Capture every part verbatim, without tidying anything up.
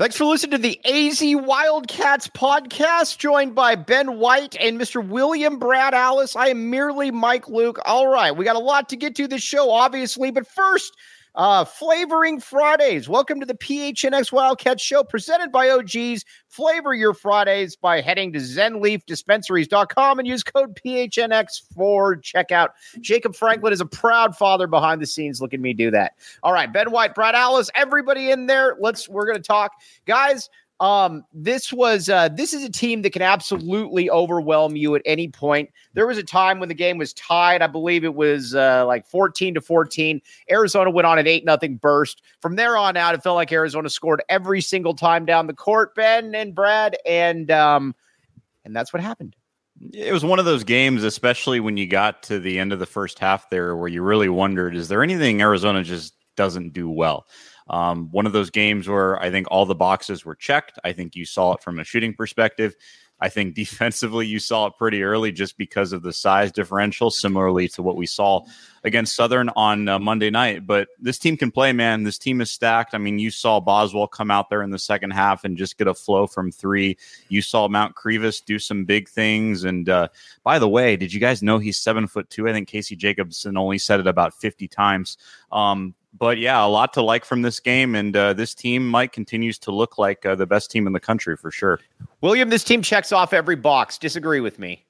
Thanks for listening to the A Z Wildcats podcast, joined by Ben White and Mister William Brad Alice. I am merely Mike Luke. All right, we got a lot to get to this show, obviously, but first, uh, Flavoring Fridays. Welcome to the P H N X Wildcats show, presented by O G's. Flavor your Fridays by heading to zen leaf dispensaries dot com and use code P H N X for checkout. Jacob Franklin is a proud father behind the scenes. Look at me do that. All right, Ben White, Brad Alice, everybody in there. Let's. We're going to talk, guys. Um, this was uh, this is a team that can absolutely overwhelm you at any point. There was a time when the game was tied. I believe it was uh, like fourteen to fourteen. Arizona went on an eight nothing burst. From there on out, it felt like Arizona scored every single time down the court, Ben and Brad, and um, and that's what happened. It was one of those games, especially when you got to the end of the first half there, where you really wondered, is there anything Arizona just doesn't do well? Um, one of those games where I think all the boxes were checked. I think you saw it from a shooting perspective. I think defensively you saw it pretty early just because of the size differential, similarly to what we saw against Southern on uh, Monday night. But this team can play, man. This team is stacked. I mean, you saw Boswell come out there in the second half and just get a flow from three. You saw Mount Crevis do some big things. And uh, by the way, did you guys know he's seven foot two? I think Casey Jacobson only said it about fifty times. Um, But, yeah, a lot to like from this game, and uh, this team, Mike, continues to look like uh, the best team in the country for sure. William, this team checks off every box. Disagree with me.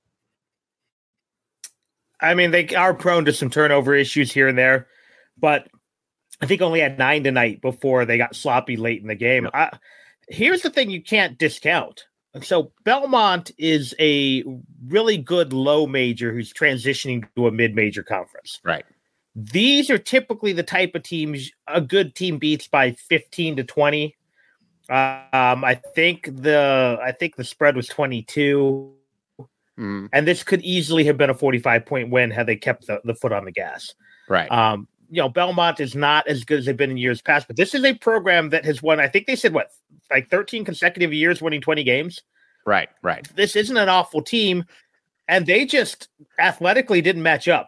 I mean, they are prone to some turnover issues here and there, but I think only had nine tonight before they got sloppy late in the game. Yep. I, here's the thing you can't discount. So Belmont is a really good low major who's transitioning to a mid-major conference. Right. These are typically the type of teams a good team beats by fifteen to twenty. Uh, um, I think the I think the spread was twenty-two, mm. and this could easily have been a forty-five point win had they kept the, the foot on the gas. Right. Um, you know, Belmont is not as good as they've been in years past, but this is a program that has won. I think they said what, like thirteen consecutive years winning twenty games. Right. Right. This isn't an awful team, and they just athletically didn't match up.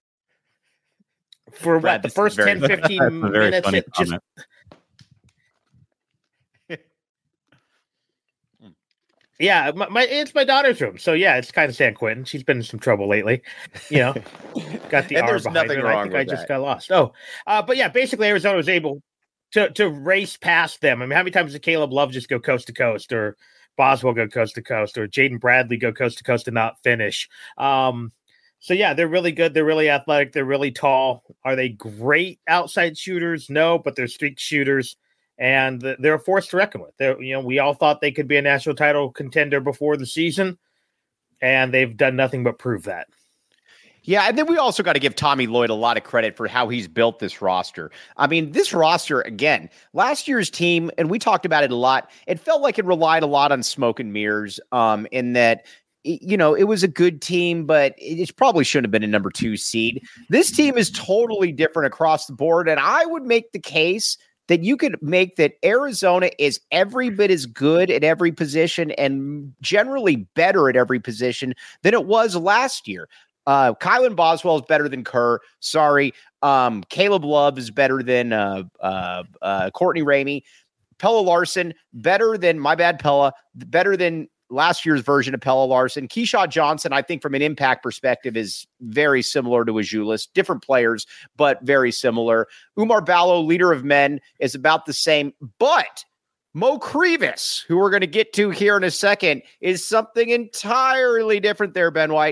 For Brad, what, the first ten, fifteen minutes, it just yeah, my, my it's my daughter's room, so yeah, it's kind of San Quentin. She's been in some trouble lately, you know. Got the and R there's behind nothing her. wrong I think with I just that. got lost. Oh, uh, but yeah, basically Arizona was able to to race past them. I mean, how many times did Caleb Love just go coast to coast, or Boswell go coast to coast, or Jaden Bradley go coast to coast and not finish? Um, So, yeah, they're really good. They're really athletic. They're really tall. Are they great outside shooters? No, but they're streak shooters, and they're a force to reckon with. They're, you know, we all thought they could be a national title contender before the season, and they've done nothing but prove that. Yeah, and then we also got to give Tommy Lloyd a lot of credit for how he's built this roster. I mean, this roster, again, last year's team, and we talked about it a lot, it felt like it relied a lot on smoke and mirrors um, in that – you know, it was a good team, but it probably shouldn't have been a number two seed. This team is totally different across the board. And I would make the case that you could make that Arizona is every bit as good at every position and generally better at every position than it was last year. Uh, Kylan Boswell is better than Kerr. Sorry. Um, Caleb Love is better than uh, uh, uh, Courtney Ramey. Pella Larson, better than, my bad, Pella, better than last year's version of Pella Larson. Keyshawn Johnson, I think from an impact perspective, is very similar to Azuolas. Different players, but very similar. Umar Ballo, leader of men, is about the same. But Mo Crevis, who we're going to get to here in a second, is something entirely different there, Ben White.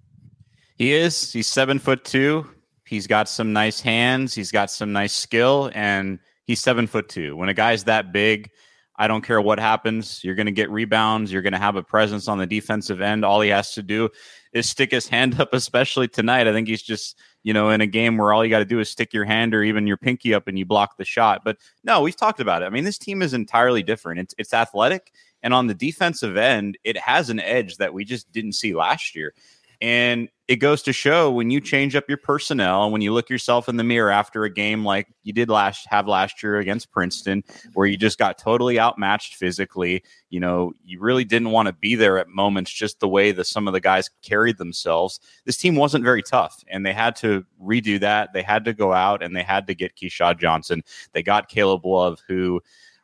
He is. He's seven foot two. He's got some nice hands. He's got some nice skill, and he's seven foot two. When a guy's that big, I don't care what happens. You're going to get rebounds. You're going to have a presence on the defensive end. All he has to do is stick his hand up, especially tonight. I think he's just, you know, in a game where all you got to do is stick your hand or even your pinky up and you block the shot. But no, we've talked about it. I mean, this team is entirely different. It's, it's athletic. And on the defensive end, it has an edge that we just didn't see last year. And it goes to show when you change up your personnel and when you look yourself in the mirror after a game like you did last have last year against Princeton, where you just got totally outmatched physically, you know, you really didn't want to be there at moments, just the way that some of the guys carried themselves. This team wasn't very tough, and they had to redo that. They had to go out and they had to get Keyshawn Johnson. They got Caleb Love, who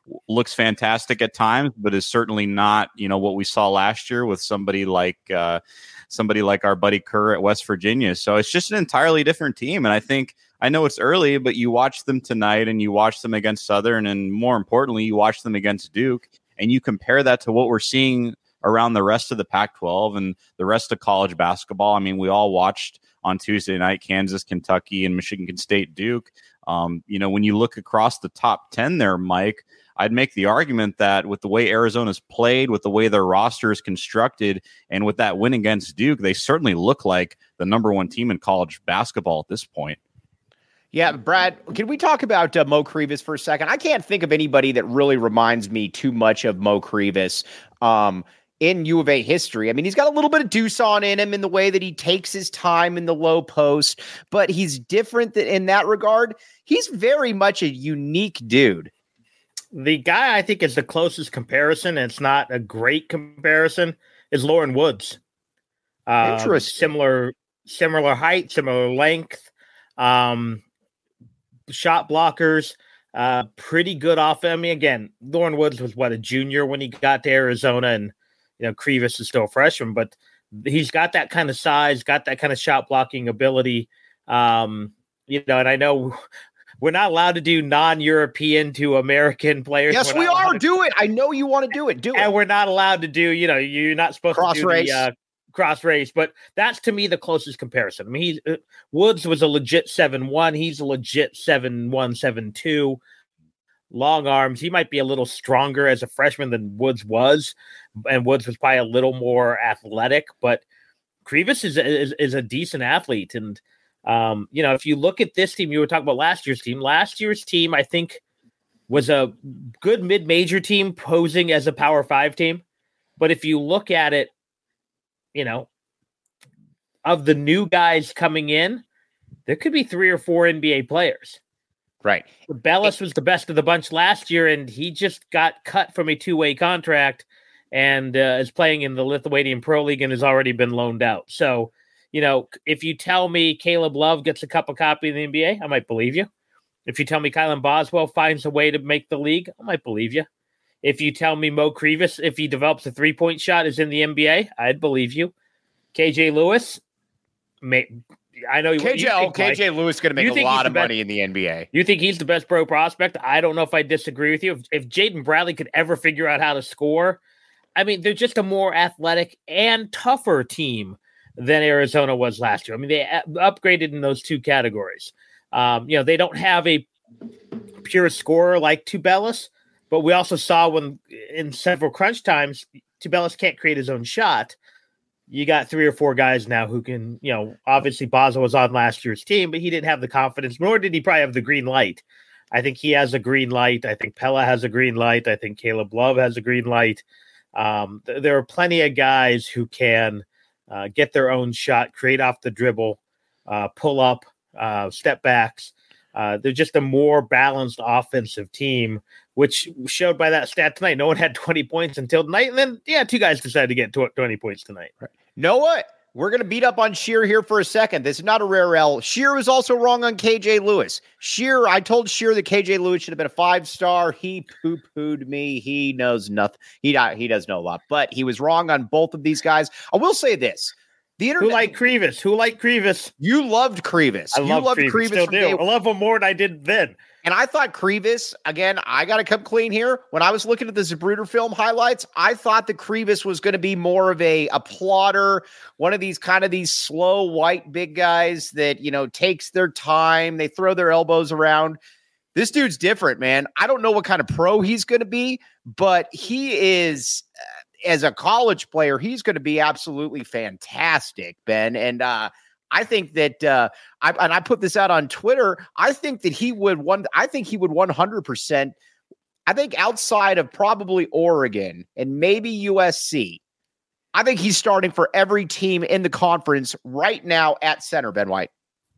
looks fantastic at times, but is certainly not, you know, what we saw last year with somebody like uh, somebody like our buddy Kerr at West Virginia. So it's just an entirely different team. And I think, I know it's early, but you watch them tonight and you watch them against Southern, and more importantly, you watch them against Duke, and you compare that to what we're seeing around the rest of the Pac twelve and the rest of college basketball. I mean, we all watched on Tuesday night Kansas, Kentucky, and Michigan State, Duke. Um, you know, when you look across the top ten there, Mike, I'd make the argument that with the way Arizona's played, with the way their roster is constructed, and with that win against Duke, they certainly look like the number one team in college basketball at this point. Yeah, Brad, can we talk about uh, Mo Krivas for a second? I can't think of anybody that really reminds me too much of Mo Krivas um, in U of A history. I mean, he's got a little bit of deuce on in him in the way that he takes his time in the low post, but he's different th- in that regard. He's very much a unique dude. The guy I think is the closest comparison, and it's not a great comparison, is Lauren Woods. Uh, Interesting. Similar, similar height, similar length. Um, shot blockers, uh, pretty good off. I mean, again, Lauren Woods was what, a junior when he got to Arizona, and you know Krivas is still a freshman, but he's got that kind of size, got that kind of shot blocking ability. Um, you know, and I know we're not allowed to do non-European to American players. Yes, we are. Do it. I know you want to do it. Do it. And we're not allowed to do. You know, you're not supposed cross to do race. the uh, cross race, but that's to me the closest comparison. I mean, he's uh, Woods was a legit seven one. He's a legit seven one, seven two. Long arms. He might be a little stronger as a freshman than Woods was, and Woods was probably a little more athletic. But Krivas is is, is a decent athlete, and um, you know, if you look at this team, you were talking about last year's team. Last year's team, I think, was a good mid-major team posing as a Power Five team. But if you look at it, you know, of the new guys coming in, there could be three or four N B A players. Right. Bellis was the best of the bunch last year, and he just got cut from a two-way contract and uh, is playing in the Lithuanian Pro League and has already been loaned out. So, you know, if you tell me Caleb Love gets a cup of copy in the N B A, I might believe you. If you tell me Kylan Boswell finds a way to make the league, I might believe you. If you tell me Mo Krivas, if he develops a three-point shot, is in the N B A, I'd believe you. K J Lewis, may, I know K J, you think, K J Mike, Lewis going to make a lot of money in the N B A. You think he's the best pro prospect? I don't know if I disagree with you. If, if Jaden Bradley could ever figure out how to score, I mean, they're just a more athletic and tougher team than Arizona was last year. I mean, they upgraded in those two categories. Um, you know, they don't have a pure scorer like Tubelis, but we also saw when in several crunch times, Tubelis can't create his own shot. You got three or four guys now who can, you know, obviously Baza was on last year's team, but he didn't have the confidence, nor did he probably have the green light. I think he has a green light. I think Pella has a green light. I think Caleb Love has a green light. Um, th- there are plenty of guys who can uh, get their own shot, create off the dribble, uh, pull up, uh, step backs. Uh, they're just a more balanced offensive team, which showed by that stat tonight. No one had twenty points until tonight. And then, yeah, two guys decided to get twenty points tonight. Right. Know what? We're going to beat up on Shear here for a second. This is not a rare L. Shear was also wrong on K J Lewis. Shear, I told Shear that K J Lewis should have been a five-star. He poo-pooed me. He knows nothing. He, he does know a lot, but he was wrong on both of these guys. I will say this. The internet, Who liked Krivas? Who liked Krivas? You loved Krivas. I you love loved Krivas. Krivas Still from do. day I love him more than I did then. And I thought Krivas, again, I got to come clean here. When I was looking at the Zapruder film highlights, I thought that Krivas was going to be more of a, a plotter, one of these kind of these slow white big guys that, you know, takes their time. They throw their elbows around. This dude's different, man. I don't know what kind of pro he's going to be, but he is, uh, as a college player, he's going to be absolutely fantastic, Ben. And, uh, I think that, uh, I, and I put this out on Twitter. I think that he would one. I think he would one hundred percent. I think outside of probably Oregon and maybe U S C, I think he's starting for every team in the conference right now at center. Ben White,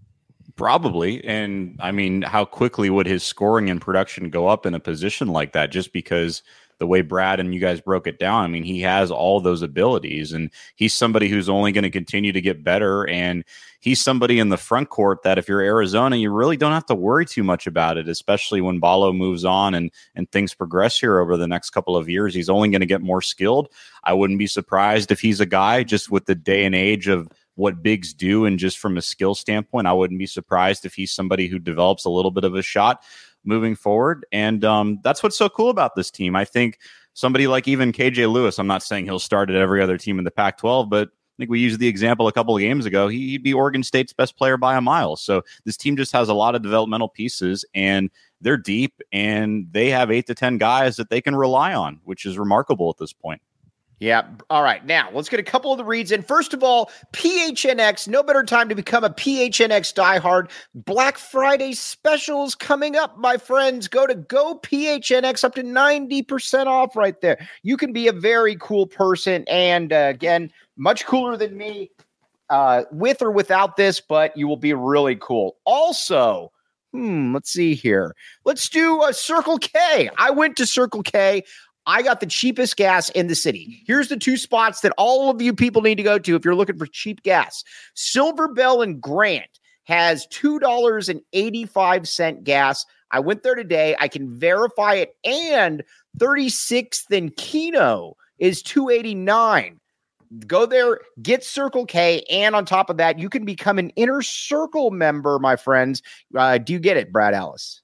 probably, and I mean, how quickly would his scoring and production go up in a position like that? Just because the way Brad and you guys broke it down, I mean, he has all those abilities, and he's somebody who's only going to continue to get better. And he's somebody in the front court that if you're Arizona, you really don't have to worry too much about it, especially when Ballo moves on and, and things progress here over the next couple of years. He's only going to get more skilled. I wouldn't be surprised if he's a guy just with the day and age of what bigs do, and just from a skill standpoint, I wouldn't be surprised if he's somebody who develops a little bit of a shot moving forward. And um, that's what's so cool about this team. I think somebody like even K J Lewis, I'm not saying he'll start at every other team in the Pac twelve, but I think we used the example a couple of games ago. He'd be Oregon State's best player by a mile. So this team just has a lot of developmental pieces, and they're deep, and they have eight to ten guys that they can rely on, which is remarkable at this point. Yeah. All right. Now let's get a couple of the reads in. First of all, P H N X, no better time to become a P H N X diehard. Black Friday specials coming up, my friends. Go to Go P H N X, up to ninety percent off right there. You can be a very cool person. And uh, again, much cooler than me uh, with or without this, but you will be really cool. Also, hmm, let's see here. Let's do a Circle K. I went to Circle K. I got the cheapest gas in the city. Here's the two spots that all of you people need to go to if you're looking for cheap gas. Silver Bell and Grant has two dollars and eighty-five cents gas. I went there today. I can verify it. And thirty-sixth and Keno is two eighty-nine. Go there, get Circle K, and on top of that, you can become an Inner Circle member, my friends. Uh, do you get it, Brad Ellis?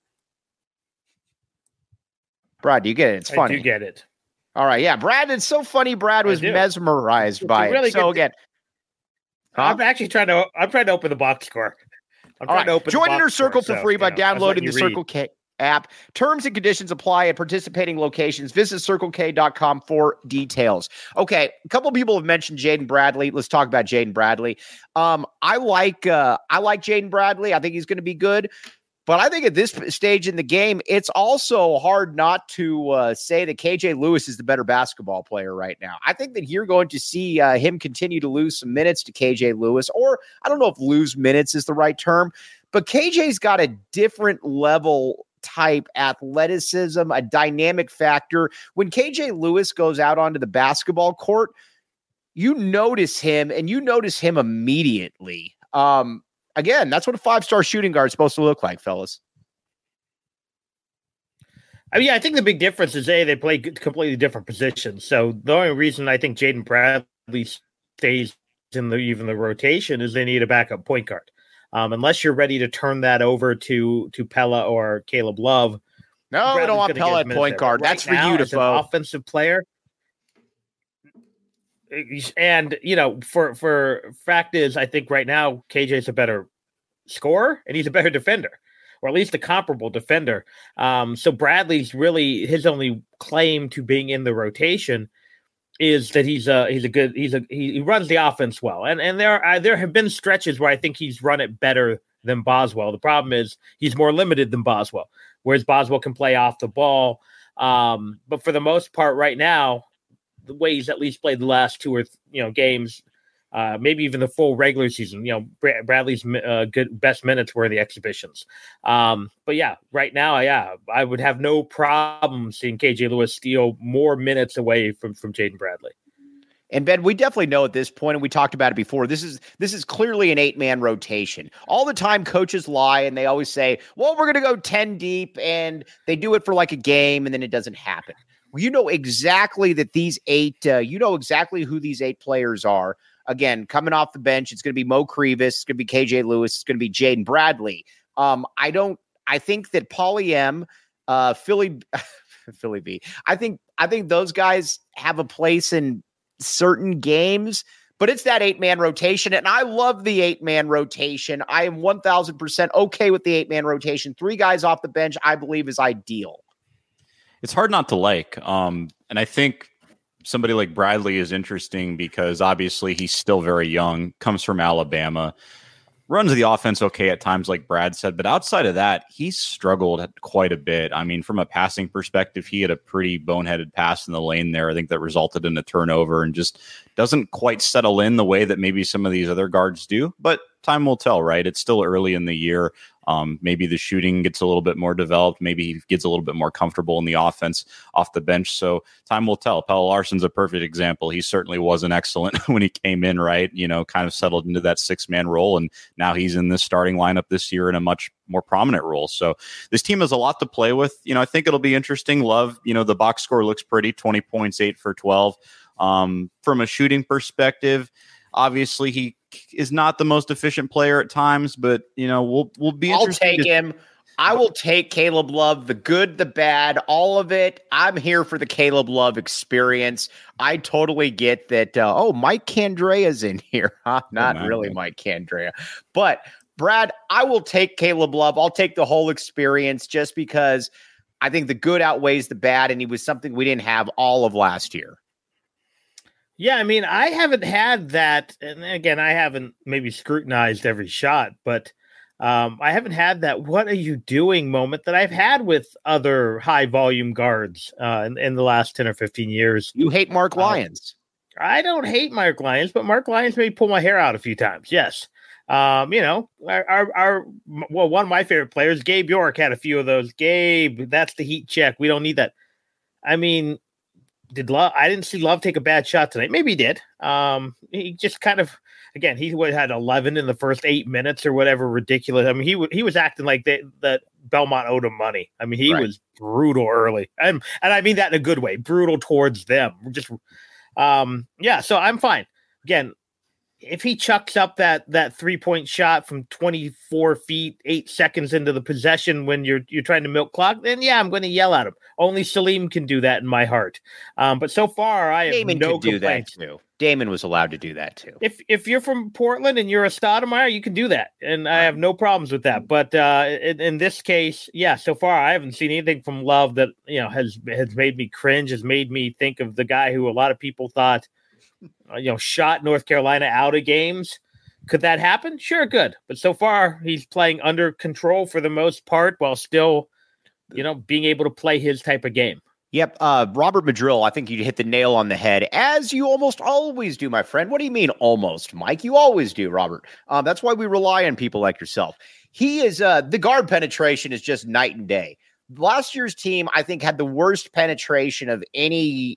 Brad, do you get it? It's funny. I do get it. All right, yeah. Brad, it's so funny. Brad was mesmerized it's by really it. So again, huh? I'm actually trying to. I'm trying to open the box score. I'm All trying right. to open. Join the Inner box Circle score, for so, free by you know, downloading the read. Circle K app. Terms and conditions apply at participating locations. Visit circle k dot com for details. Okay, a couple of people have mentioned Jaden Bradley. Let's talk about Jaden Bradley. Um, I like uh, I like Jaden Bradley. I think he's going to be good. But I think at this stage in the game, it's also hard not to uh, say that K J Lewis is the better basketball player right now. I think that you're going to see uh, him continue to lose some minutes to K J Lewis, or I don't know if lose minutes is the right term, but K J's got a different level type athleticism, a dynamic factor. When K J Lewis goes out onto the basketball court, you notice him, and you notice him immediately. Um, Again, that's what a five-star shooting guard is supposed to look like, fellas. I mean, I think the big difference is A, they play completely different positions. So the only reason I think Jaden Bradley stays in the even the rotation is they need a backup point guard. Um, unless you're ready to turn that over to to Pella or Caleb Love. No, Bradley's we don't want Pella at point guard. Right, that's for you to vote. Offensive player. And, you know, for, for fact is, I think right now, K J's a better scorer and he's a better defender, or at least a comparable defender. Um, so Bradley's really, his only claim to being in the rotation is that he's a, he's a good, he's a, he, he runs the offense well. And, and there are, there have been stretches where I think he's run it better than Boswell. The problem is he's more limited than Boswell, whereas Boswell can play off the ball. Um, but for the most part right now, the way he's at least played the last two or th- you know games, uh, maybe even the full regular season. You know, Br- Bradley's uh, good best minutes were the exhibitions. Um, but yeah, right now, yeah, I would have no problem seeing K J Lewis steal more minutes away from from Jaden Bradley. And Ben, we definitely know at this point, and we talked about it before, this is this is clearly an eight-man rotation. All the time coaches lie, and they always say, well, we're going to go ten deep, and they do it for like a game, and then it doesn't happen. You know exactly that these eight, uh, you know exactly who these eight players are. Again, coming off the bench, it's going to be Mo Crevis, it's going to be K J Lewis, it's going to be Jaden Bradley. Um, I don't, I think that Pauly M, uh, Philly, Philly B, I think, I think those guys have a place in certain games, but it's that eight-man rotation, and I love the eight-man rotation. I am one thousand percent okay with the eight-man rotation. Three guys off the bench, I believe, is ideal. It's hard not to like. Um, and I think somebody like Bradley is interesting because obviously he's still very young, comes from Alabama, runs the offense okay at times, like Brad said. But outside of that, he's struggled quite a bit. I mean, from a passing perspective, he had a pretty boneheaded pass in the lane there. I think that resulted in a turnover and just doesn't quite settle in the way that maybe some of these other guards do. But time will tell, right? It's still early in the year. Um, maybe the shooting gets a little bit more developed. Maybe he gets a little bit more comfortable in the offense off the bench. So time will tell. Pelle Larsson's a perfect example. He certainly wasn't excellent when he came in, right? You know, kind of settled into that six-man role, and now he's in this starting lineup this year in a much more prominent role. So this team has a lot to play with. You know, I think it'll be interesting. Love, you know, the box score looks pretty, twenty points, eight for twelve. Um, from a shooting perspective, obviously he is not the most efficient player at times, but you know, we'll we'll be I'll interested. take to- him. I will take Caleb Love, the good, the bad, all of it. I'm here for the Caleb Love experience. I totally get that. Uh, oh, Mike Candrea's in here. Huh? Not Oh, really God. Mike Candrea. But Brad, I will take Caleb Love. I'll take the whole experience just because I think the good outweighs the bad, and he was something we didn't have all of last year. Yeah, I mean, I haven't had that, and again, I haven't maybe scrutinized every shot, but um, I haven't had that "what are you doing" moment that I've had with other high volume guards uh, in, in the last ten or fifteen years. You hate Mark Uh, Lyons. I don't hate Mark Lyons, but Mark Lyons made me pull my hair out a few times. Yes. Um, you know, our, our, our, well, one of my favorite players, Gabe York, had a few of those. Gabe, that's the heat check. We don't need that. I mean, did Love, I didn't see Love take a bad shot tonight. Maybe he did. Um, he just kind of, again, he would had eleven in the first eight minutes or whatever, ridiculous. I mean, he w- he was acting like that that Belmont owed him money. I mean, he Right. was brutal early. And, and I mean that in a good way, brutal towards them. Just, um, yeah, so I'm fine. Again, if he chucks up that that three point shot from twenty-four feet, eight seconds into the possession when you're you're trying to milk clock, then yeah, I'm going to yell at him. Only Salim can do that in my heart. Um, but so far, I have Damon no could do that complaints. too. Damon was allowed to do that too. If if you're from Portland and you're a Stoudemire, you can do that, and I have no problems with that. But uh, in, in this case, yeah, so far I haven't seen anything from Love that you know has has made me cringe, has made me think of the guy who a lot of people thought. Uh, you know, shot North Carolina out of games. Could that happen? Sure, good. But so far, he's playing under control for the most part while still, you know, being able to play his type of game. Yep. Uh, Robert Madrill, I think you hit the nail on the head, as you almost always do, my friend. What do you mean almost, Mike? You always do, Robert. Um, that's why we rely on people like yourself. He is, uh, the guard penetration is just night and day. Last year's team, I think, had the worst penetration of any...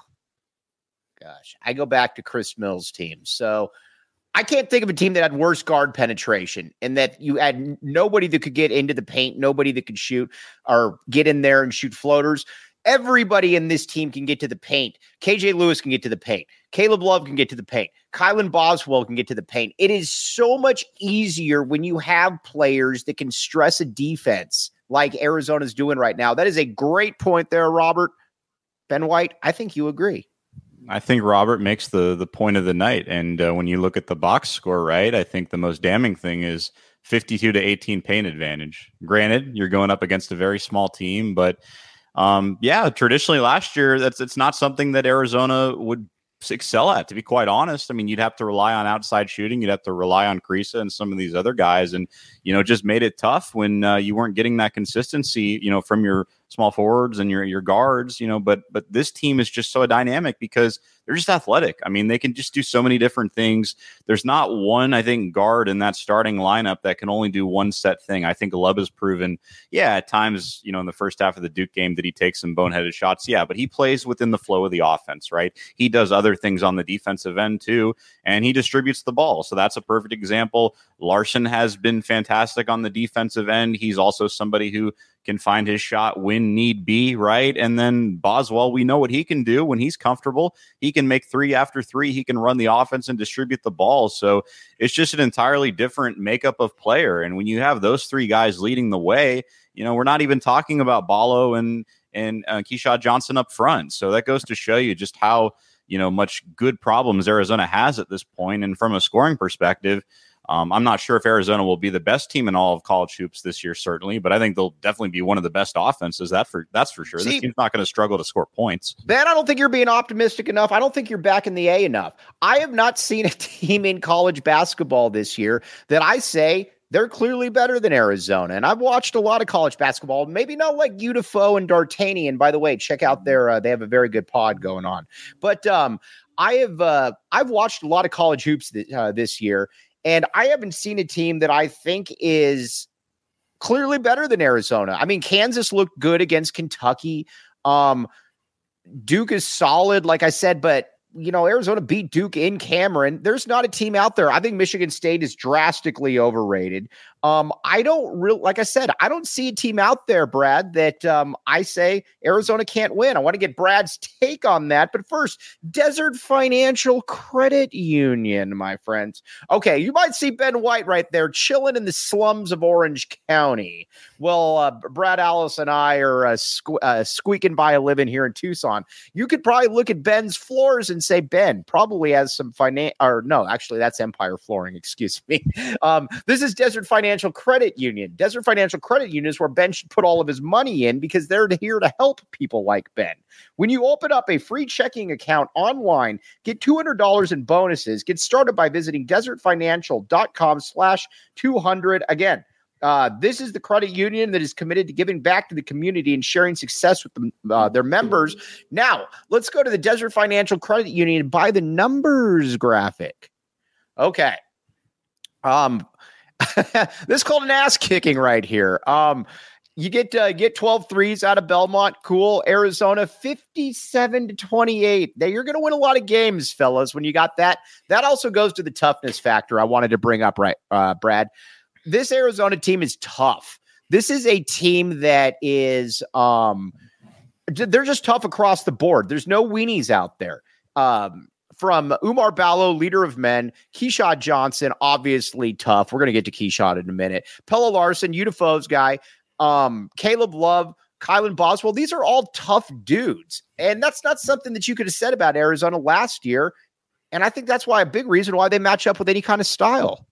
Gosh, I go back to Chris Mills' team. So I can't think of a team that had worse guard penetration and that you had nobody that could get into the paint, nobody that could shoot or get in there and shoot floaters. Everybody in this team can get to the paint. K J Lewis can get to the paint. Caleb Love can get to the paint. Kylan Boswell can get to the paint. It is so much easier when you have players that can stress a defense like Arizona's doing right now. That is a great point there, Robert. Ben White, I think you agree. I think Robert makes the the point of the night. And uh, when you look at the box score, right, I think the most damning thing is fifty-two to eighteen paint advantage. Granted, you're going up against a very small team, but um, yeah, traditionally last year, that's it's not something that Arizona would excel at, to be quite honest. I mean, you'd have to rely on outside shooting. You'd have to rely on Kriisa and some of these other guys. And, you know, just made it tough when uh, you weren't getting that consistency, you know, from your small forwards and your your guards, you know, but but this team is just so dynamic because they're just athletic. I mean, they can just do so many different things. There's not one, I think, guard in that starting lineup that can only do one set thing. I think Love has proven, yeah, at times, you know, in the first half of the Duke game, did he take some boneheaded shots? Yeah, but he plays within the flow of the offense, right? He does other things on the defensive end too, and he distributes the ball. So that's a perfect example. Larsson has been fantastic on the defensive end. He's also somebody who can find his shot when need be, right? And then Boswell, we know what he can do when he's comfortable. He can make three after three. He can run the offense and distribute the ball. So it's just an entirely different makeup of player. And when you have those three guys leading the way, you know, we're not even talking about Ballo and and uh, Keyshawn Johnson up front. So that goes to show you just how, you know, much good problems Arizona has at this point. And from a scoring perspective, Um, I'm not sure if Arizona will be the best team in all of college hoops this year, certainly, but I think they'll definitely be one of the best offenses. That for that's for sure. See, this team's not going to struggle to score points. Ben, I don't think you're being optimistic enough. I don't think you're back in the A enough. I have not seen a team in college basketball this year that I say they're clearly better than Arizona. And I've watched a lot of college basketball, maybe not like U T F O and D'Artagnan. By the way, check out their, uh, they have a very good pod going on. But um, I have, uh, I've watched a lot of college hoops th- uh, this year. And I haven't seen a team that I think is clearly better than Arizona. I mean, Kansas looked good against Kentucky. Um, Duke is solid, like I said, but you know, Arizona beat Duke in Cameron. There's not a team out there. I think Michigan State is drastically overrated. Um, I don't really, like I said, I don't see a team out there, Brad, that um, I say Arizona can't win. I want to get Brad's take on that. But first, Desert Financial Credit Union, my friends. Okay, you might see Ben White right there chilling in the slums of Orange County. Well, uh, Brad Alice and I are uh, sque- uh, squeaking by a living here in Tucson. You could probably look at Ben's floors and say, Ben probably has some finance, or no, actually, that's Empire Flooring. Excuse me. Um, this is Desert Financial Credit Union. Desert Financial Credit Union is where Ben should put all of his money in because they're here to help people like Ben. When you open up a free checking account online, get two hundred dollars in bonuses. Get started by visiting desertfinancial.com slash 200. Again, Uh, this is the credit union that is committed to giving back to the community and sharing success with the, uh, their members. Now, let's go to the Desert Financial Credit Union and buy the numbers graphic. Okay. Um, this is called an ass kicking right here. Um, you get uh, get twelve threes out of Belmont. Cool. Arizona fifty-seven to twenty-eight. Now, you're going to win a lot of games, fellas, when you got that. That also goes to the toughness factor I wanted to bring up, right, uh, Brad. This Arizona team is tough. This is a team that is, um, they're just tough across the board. There's no weenies out there. Um, from Umar Ballo, leader of men, Keyshawn Johnson, obviously tough. We're going to get to Keyshawn in a minute. Pella Larson, Udafo's guy, um, Caleb Love, Kylan Boswell. These are all tough dudes. And that's not something that you could have said about Arizona last year. And I think that's why a big reason why they match up with any kind of style.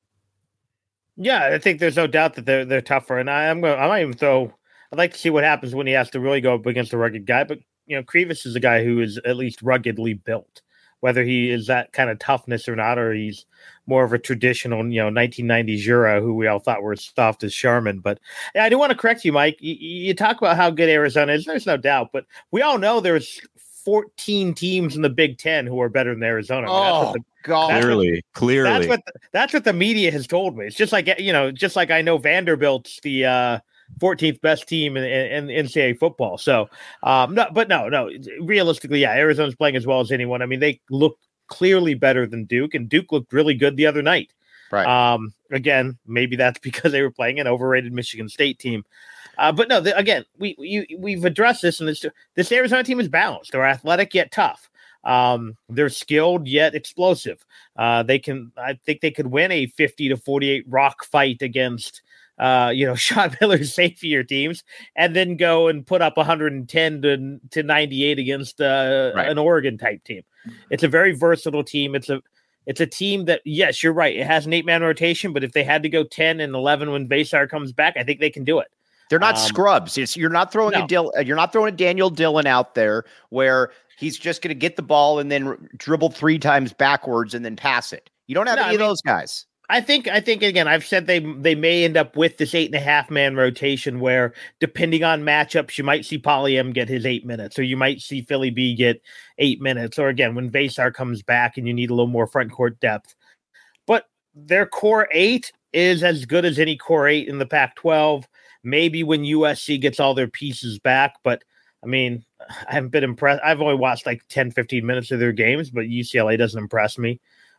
Yeah, I think there's no doubt that they're they're tougher, and I, I'm going. I might even throw. I'd like to see what happens when he has to really go up against a rugged guy. But you know, Krivas is a guy who is at least ruggedly built. Whether he is that kind of toughness or not, or he's more of a traditional, you know, nineteen nineties Jura, who we all thought were as soft as Sherman. But yeah, I do want to correct you, Mike. You, you talk about how good Arizona is. There's no doubt, but we all know there's fourteen teams in the Big Ten who are better than Arizona. I mean, oh, that's what the, God. Clearly, what, clearly. That's what, the, that's what the media has told me. It's just like, you know, just like I know Vanderbilt's the uh, fourteenth best team in, in, in N C double A football. So, um, no, but no, no, realistically, yeah, Arizona's playing as well as anyone. I mean, they look clearly better than Duke, and Duke looked really good the other night. Right. Um, again, maybe that's because they were playing an overrated Michigan State team. Uh, but no, the, again, we, we, we've addressed this, and this, this Arizona team is balanced. They're athletic yet tough. Um, they're skilled yet explosive. Uh, they can, I think they could win a fifty to forty-eight rock fight against, uh, you know, Sean Miller's savior teams, and then go and put up one hundred ten to ninety-eight against uh, right. an Oregon type team. It's a very versatile team. It's a, it's a team that, yes, you're right. It has an eight man rotation, but if they had to go ten and eleven when Basar comes back, I think they can do it. They're not um, scrubs. It's, you're not throwing no. a Dil, you're not throwing a Daniel Dillon out there where he's just going to get the ball and then r- dribble three times backwards and then pass it. You don't have no, any I of mean, those guys. I think, I think again, I've said they they may end up with this eight and a half man rotation where, depending on matchups, you might see Poly M get his eight minutes, or you might see Philly B get eight minutes, or again when Basar comes back and you need a little more front court depth. But their core eight is as good as any core eight in the Pac twelve. Maybe when U S C gets all their pieces back, but I mean, I haven't been impressed. I've only watched like ten, fifteen minutes of their games, but U C L A doesn't impress me.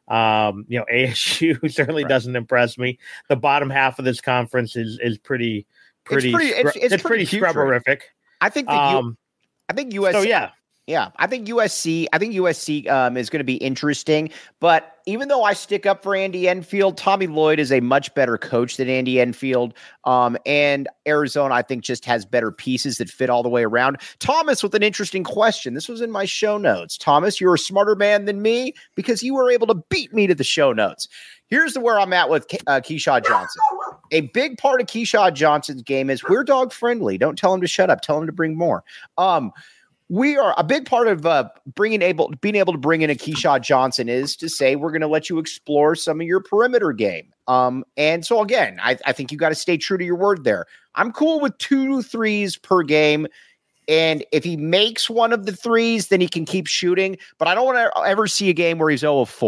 Um, you know, A S U certainly right. doesn't impress me. The bottom half of this conference is is pretty, pretty, it's pretty, scrub- it's, it's it's pretty, pretty scrubberific. I think that um, you, I think U S C. So yeah. Yeah, I think U S C. I think U S C um, is going to be interesting. But even though I stick up for Andy Enfield, Tommy Lloyd is a much better coach than Andy Enfield. Um, and Arizona, I think, just has better pieces that fit all the way around. Thomas with an interesting question. This was in my show notes. Thomas, you're a smarter man than me because you were able to beat me to the show notes. Here's the where I'm at with uh, Keyshawn Johnson. A big part of Keyshawn Johnson's game is we're dog friendly. Don't tell him to shut up. Tell him to bring more. Um, We are a big part of uh, bringing able being able to bring in a Keyshawn Johnson is to say we're going to let you explore some of your perimeter game. Um, and so again, I, I think you got to stay true to your word there. I'm cool with two threes per game, and if he makes one of the threes, then he can keep shooting. But I don't want to ever see a game where he's zero of four.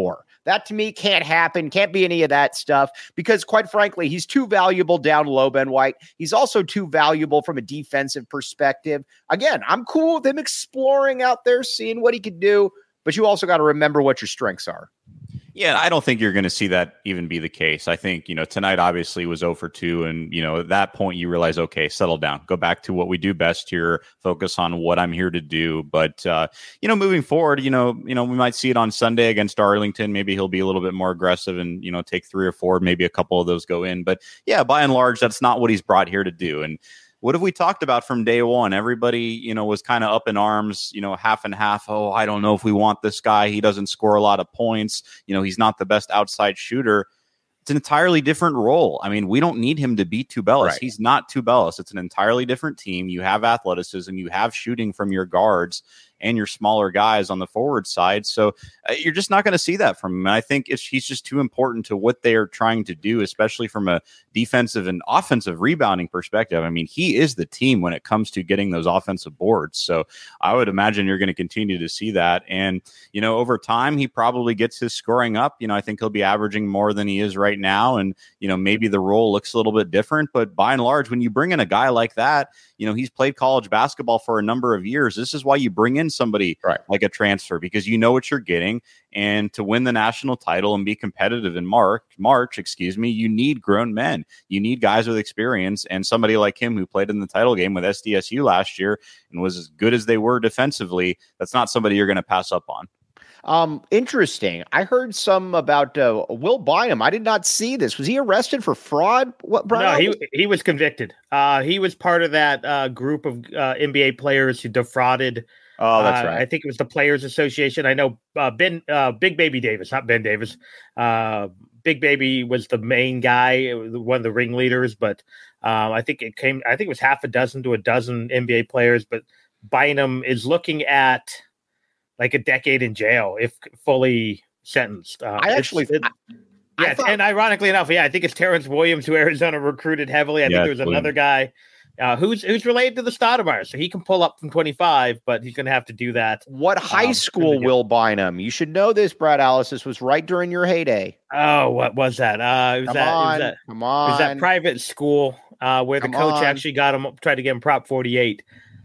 That to me can't happen. Can't be any of that stuff because, quite frankly, he's too valuable down low, Ben White. He's also too valuable from a defensive perspective. Again, I'm cool with him exploring out there, seeing what he could do, but you also got to remember what your strengths are. Yeah, I don't think you're going to see that even be the case. I think, you know, tonight obviously was zero for two. And, you know, at that point you realize, okay, settle down, go back to what we do best here, focus on what I'm here to do. But, uh, you know, moving forward, you know, you know, we might see it on Sunday against Arlington. Maybe he'll be a little bit more aggressive and, you know, take three or four, maybe a couple of those go in. But yeah, by and large, that's not what he's brought here to do. And what have we talked about from day one? Everybody, you know, was kind of up in arms, you know, half and half. Oh, I don't know if we want this guy. He doesn't score a lot of points. You know, he's not the best outside shooter. It's an entirely different role. I mean, we don't need him to beat Tubelis. Right. He's not Tubelis. It's an entirely different team. You have athleticism. You have shooting from your guards and your smaller guys on the forward side. So uh, you're just not going to see that from him. And I think it's, he's just too important to what they are trying to do, especially from a defensive and offensive rebounding perspective. I mean, he is the team when it comes to getting those offensive boards. So I would imagine you're going to continue to see that. And, you know, over time, he probably gets his scoring up. You know, I think he'll be averaging more than he is right now. And, you know, maybe the role looks a little bit different, but by and large, when you bring in a guy like that, you know, he's played college basketball for a number of years. This is why you bring in somebody right. like a transfer, because you know what you're getting. And to win the national title and be competitive in March, March, excuse me, you need grown men. You need guys with experience, and somebody like him who played in the title game with S D S U last year and was as good as they were defensively. That's not somebody you're going to pass up on. Um, interesting. I heard some about uh, Will Bynum. I did not see this. Was he arrested for fraud? What? Brian? No, he he was convicted. Uh, he was part of that uh, group of uh, N B A players who defrauded. Oh, that's uh, right. I think it was the Players Association. I know uh, Ben, uh, Big Baby Davis, not Ben Davis. Uh, Big Baby was the main guy, one of the ringleaders. But um, I think it came. I think it was half a dozen to a dozen N B A players. But Bynum is looking at like a decade in jail if fully sentenced. Uh, I actually, it, I, yeah, I thought, and ironically enough, yeah, I think it's Terrence Williams who Arizona recruited heavily. I yeah, think there was Williams. another guy uh, who's who's related to the Stoudemire, so he can pull up from twenty-five, but he's going to have to do that. What high um, school Will Bynum? You should know this, Brad Alice. This was right during your heyday. Oh, what was that? Uh, it was come that, on, it was that, come on. It was that private school uh, where come the coach on. actually got him, tried to get him Prop forty-eight.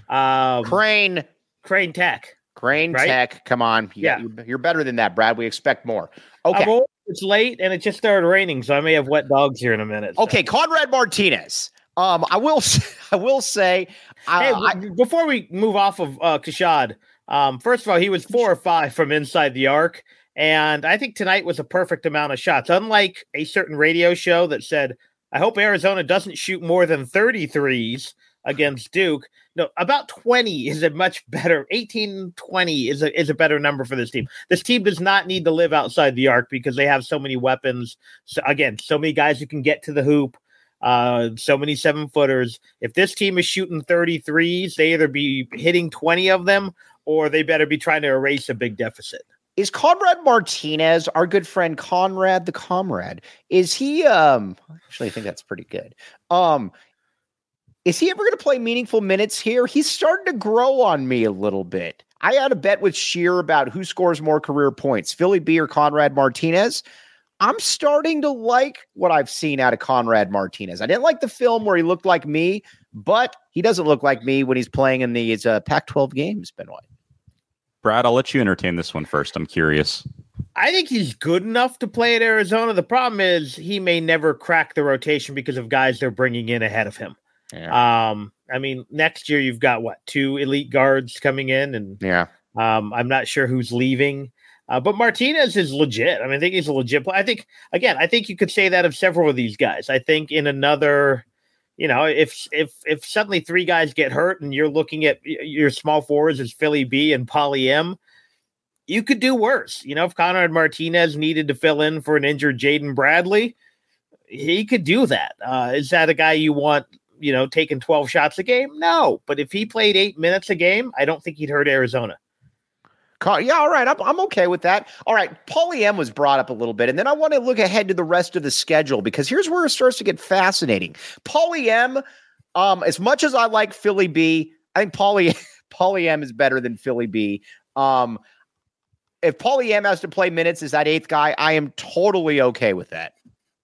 Um, Crane, Crane Tech. Crane right? Tech. Come on, you, yeah, you're, you're better than that, Brad. We expect more. Okay, old, it's late and it just started raining, so I may have wet dogs here in a minute. So. Okay, Conrad Martinez. Um, I will, I will say, hey, uh, I, before we move off of uh, Keshad, um, first of all, he was four or five from inside the arc, and I think tonight was a perfect amount of shots. Unlike a certain radio show that said, "I hope Arizona doesn't shoot more than thirty-threes against Duke." No, about twenty is a much better. eighteen, twenty is a is a better number for this team. This team does not need to live outside the arc because they have so many weapons. So again, so many guys who can get to the hoop. Uh, so many seven footers. If this team is shooting thirty-threes, they either be hitting twenty of them or they better be trying to erase a big deficit. Is Conrad Martinez, our good friend Conrad the Comrade, is he, um, actually, I think that's pretty good. Um, is he ever going to play meaningful minutes here? He's starting to grow on me a little bit. I had a bet with Sheer about who scores more career points, Philly B or Conrad Martinez. I'm starting to like what I've seen out of Conrad Martinez. I didn't like the film where he looked like me, but he doesn't look like me when he's playing in these uh, Pac twelve games, Ben White. Brad, I'll let you entertain this one first. I'm curious. I think he's good enough to play at Arizona. The problem is he may never crack the rotation because of guys they're bringing in ahead of him. Yeah. Um, I mean, next year you've got, what, two elite guards coming in, and yeah, um, I'm not sure who's leaving. Uh, but Martinez is legit. I mean, I think he's a legit player. I think, again, I think you could say that of several of these guys. I think in another, you know, if if if suddenly three guys get hurt and you're looking at your small forwards as Philly B and Poly M, you could do worse. You know, if Conrad Martinez needed to fill in for an injured Jaden Bradley, he could do that. Uh, is that a guy you want, you know, taking twelve shots a game? No. But if he played eight minutes a game, I don't think he'd hurt Arizona. Yeah, all right. I'm, I'm okay with that. All right. Paulie M was brought up a little bit, and then I want to look ahead to the rest of the schedule because here's where it starts to get fascinating. Paulie M, um, as much as I like Philly B, I think Paulie, Paulie M is better than Philly B. Um, if Paulie M has to play minutes as that eighth guy, I am totally okay with that.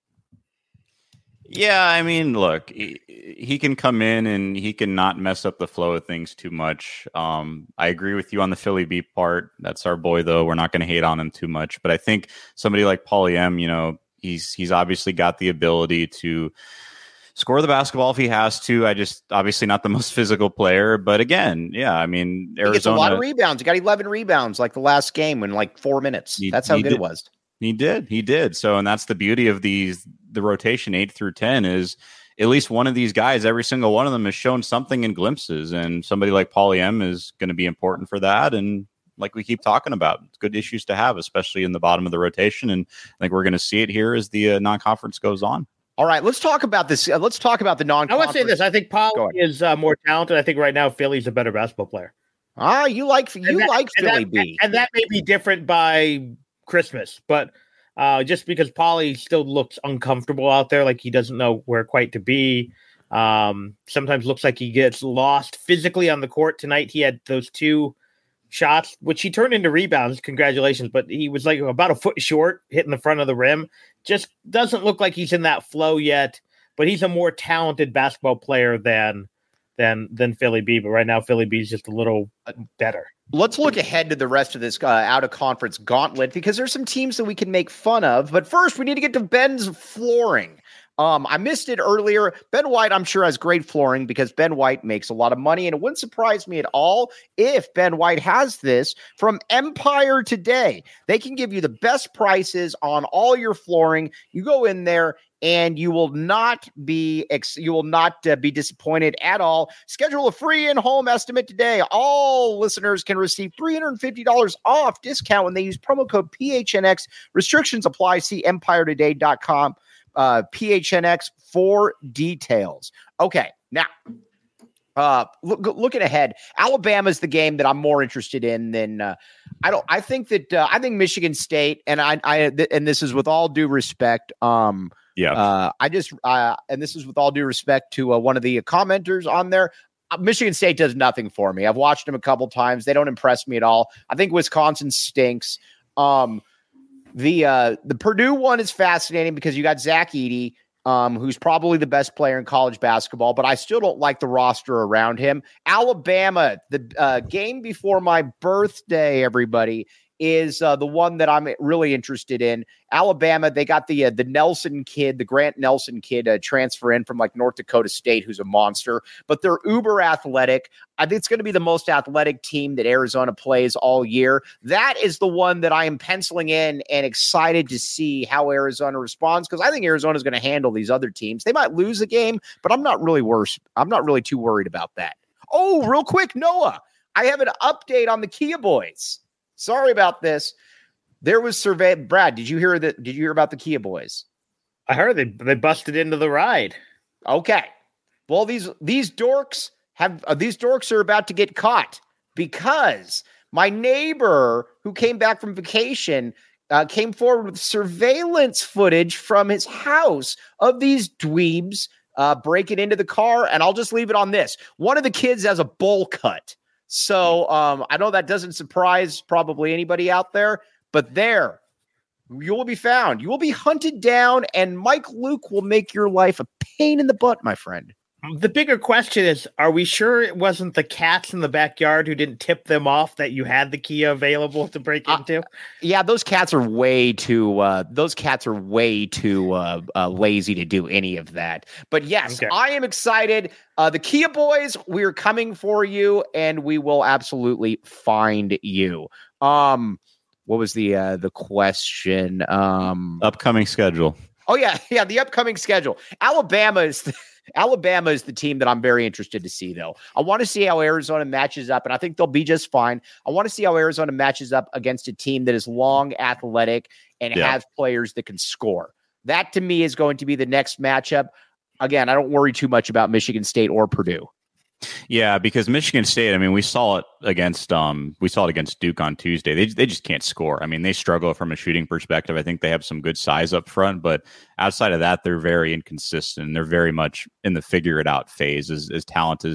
Yeah, I mean, look, he, he can come in and he can not mess up the flow of things too much. Um, I agree with you on the Philly beat part. That's our boy, though. We're not going to hate on him too much. But I think somebody like Paulie M, you know, he's he's obviously got the ability to score the basketball if he has to. I just obviously not the most physical player. But again, yeah, I mean, Arizona. He gets a lot of rebounds. He got eleven rebounds like the last game in like four minutes. He, That's how good did. it was. He did. He did. So, and that's the beauty of these, the rotation eight through ten is at least one of these guys, every single one of them has shown something in glimpses. And somebody like Paulie M is going to be important for that. And like we keep talking about, it's good issues to have, especially in the bottom of the rotation. And I think we're going to see it here as the uh, non-conference goes on. All right, let's talk about this. Uh, let's talk about the non-conference. I want to say this. I think Paulie is uh, more talented. I think right now Philly's a better basketball player. Ah, you like you that, like Philly that, B. And that may be different by Christmas, but uh, just because Paulie still looks uncomfortable out there, like he doesn't know where quite to be. Um, sometimes looks like he gets lost physically on the court. Tonight he had those two shots, which he turned into rebounds. Congratulations. But he was like about a foot short, hitting the front of the rim. Just doesn't look like he's in that flow yet, but he's a more talented basketball player than than than Philly B. But right now, Philly B is just a little better. Let's look ahead to the rest of this uh, out-of-conference gauntlet because there's some teams that we can make fun of. But first, we need to get to Ben's flooring. Um, I missed it earlier. Ben White, I'm sure, has great flooring because Ben White makes a lot of money, and it wouldn't surprise me at all if Ben White has this from Empire Today. They can give you the best prices on all your flooring. You go in there, and you will not be ex- you will not uh, be disappointed at all. Schedule a free in-home estimate today. All listeners can receive three hundred fifty dollars off discount when they use promo code P H N X. Restrictions apply. See empire today dot com. Uh, P H N X for details. Okay, now uh, look, looking ahead, Alabama's the game that I'm more interested in than uh, I don't. I think that uh, I think Michigan State, and I, I th- and this is with all due respect. Um, yeah, uh, I just uh, and this is with all due respect to uh, one of the commenters on there. Uh, Michigan State does nothing for me. I've watched them a couple times. They don't impress me at all. I think Wisconsin stinks. Um, The uh, the Purdue one is fascinating because you got Zach Edey, um, who's probably the best player in college basketball, but I still don't like the roster around him. Alabama, the uh, game before my birthday, everybody, is uh, the one that I'm really interested in. Alabama, they got the uh, the Nelson kid, the Grant Nelson kid, uh, transfer in from like North Dakota State, who's a monster, but they're uber athletic. I think it's going to be the most athletic team that Arizona plays all year. That is the one that I am penciling in and excited to see how Arizona responds because I think Arizona is going to handle these other teams. They might lose a game, but I'm not really worse. I'm not really too worried about that. Oh, real quick, Noah, I have an update on the Kia Boys. Sorry about this. There was survey. Brad, did you hear that? Did you hear about the Kia Boys? I heard they they busted into the ride. Okay. Well, these these dorks have uh, these dorks are about to get caught because my neighbor who came back from vacation uh, came forward with surveillance footage from his house of these dweebs uh, breaking into the car. And I'll just leave it on this: one of the kids has a bowl cut. So um, I know that doesn't surprise probably anybody out there, but there you will be found. You will be hunted down, and Mike Luke will make your life a pain in the butt, my friend. The bigger question is, are we sure it wasn't the cats in the backyard who didn't tip them off that you had the Kia available to break into? Uh, yeah, those cats are way too uh, those cats are way too uh, uh, lazy to do any of that. But yes, okay. I am excited. Uh, the Kia Boys, we're coming for you, and we will absolutely find you. Um, what was the uh, the question? Um, upcoming schedule. Oh yeah, yeah, the upcoming schedule. Alabama is. The- Alabama is the team that I'm very interested to see, though. I want to see how Arizona matches up, and I think they'll be just fine. I want to see how Arizona matches up against a team that is long, athletic, and yeah. has players that can score. That, to me, is going to be the next matchup. Again, I don't worry too much about Michigan State or Purdue. Yeah, because Michigan State, I mean, we saw it against um, we saw it against Duke on Tuesday. They they just can't score. I mean, they struggle from a shooting perspective. I think they have some good size up front, but outside of that, they're very inconsistent. They're very much in the figure it out phase. As as talented as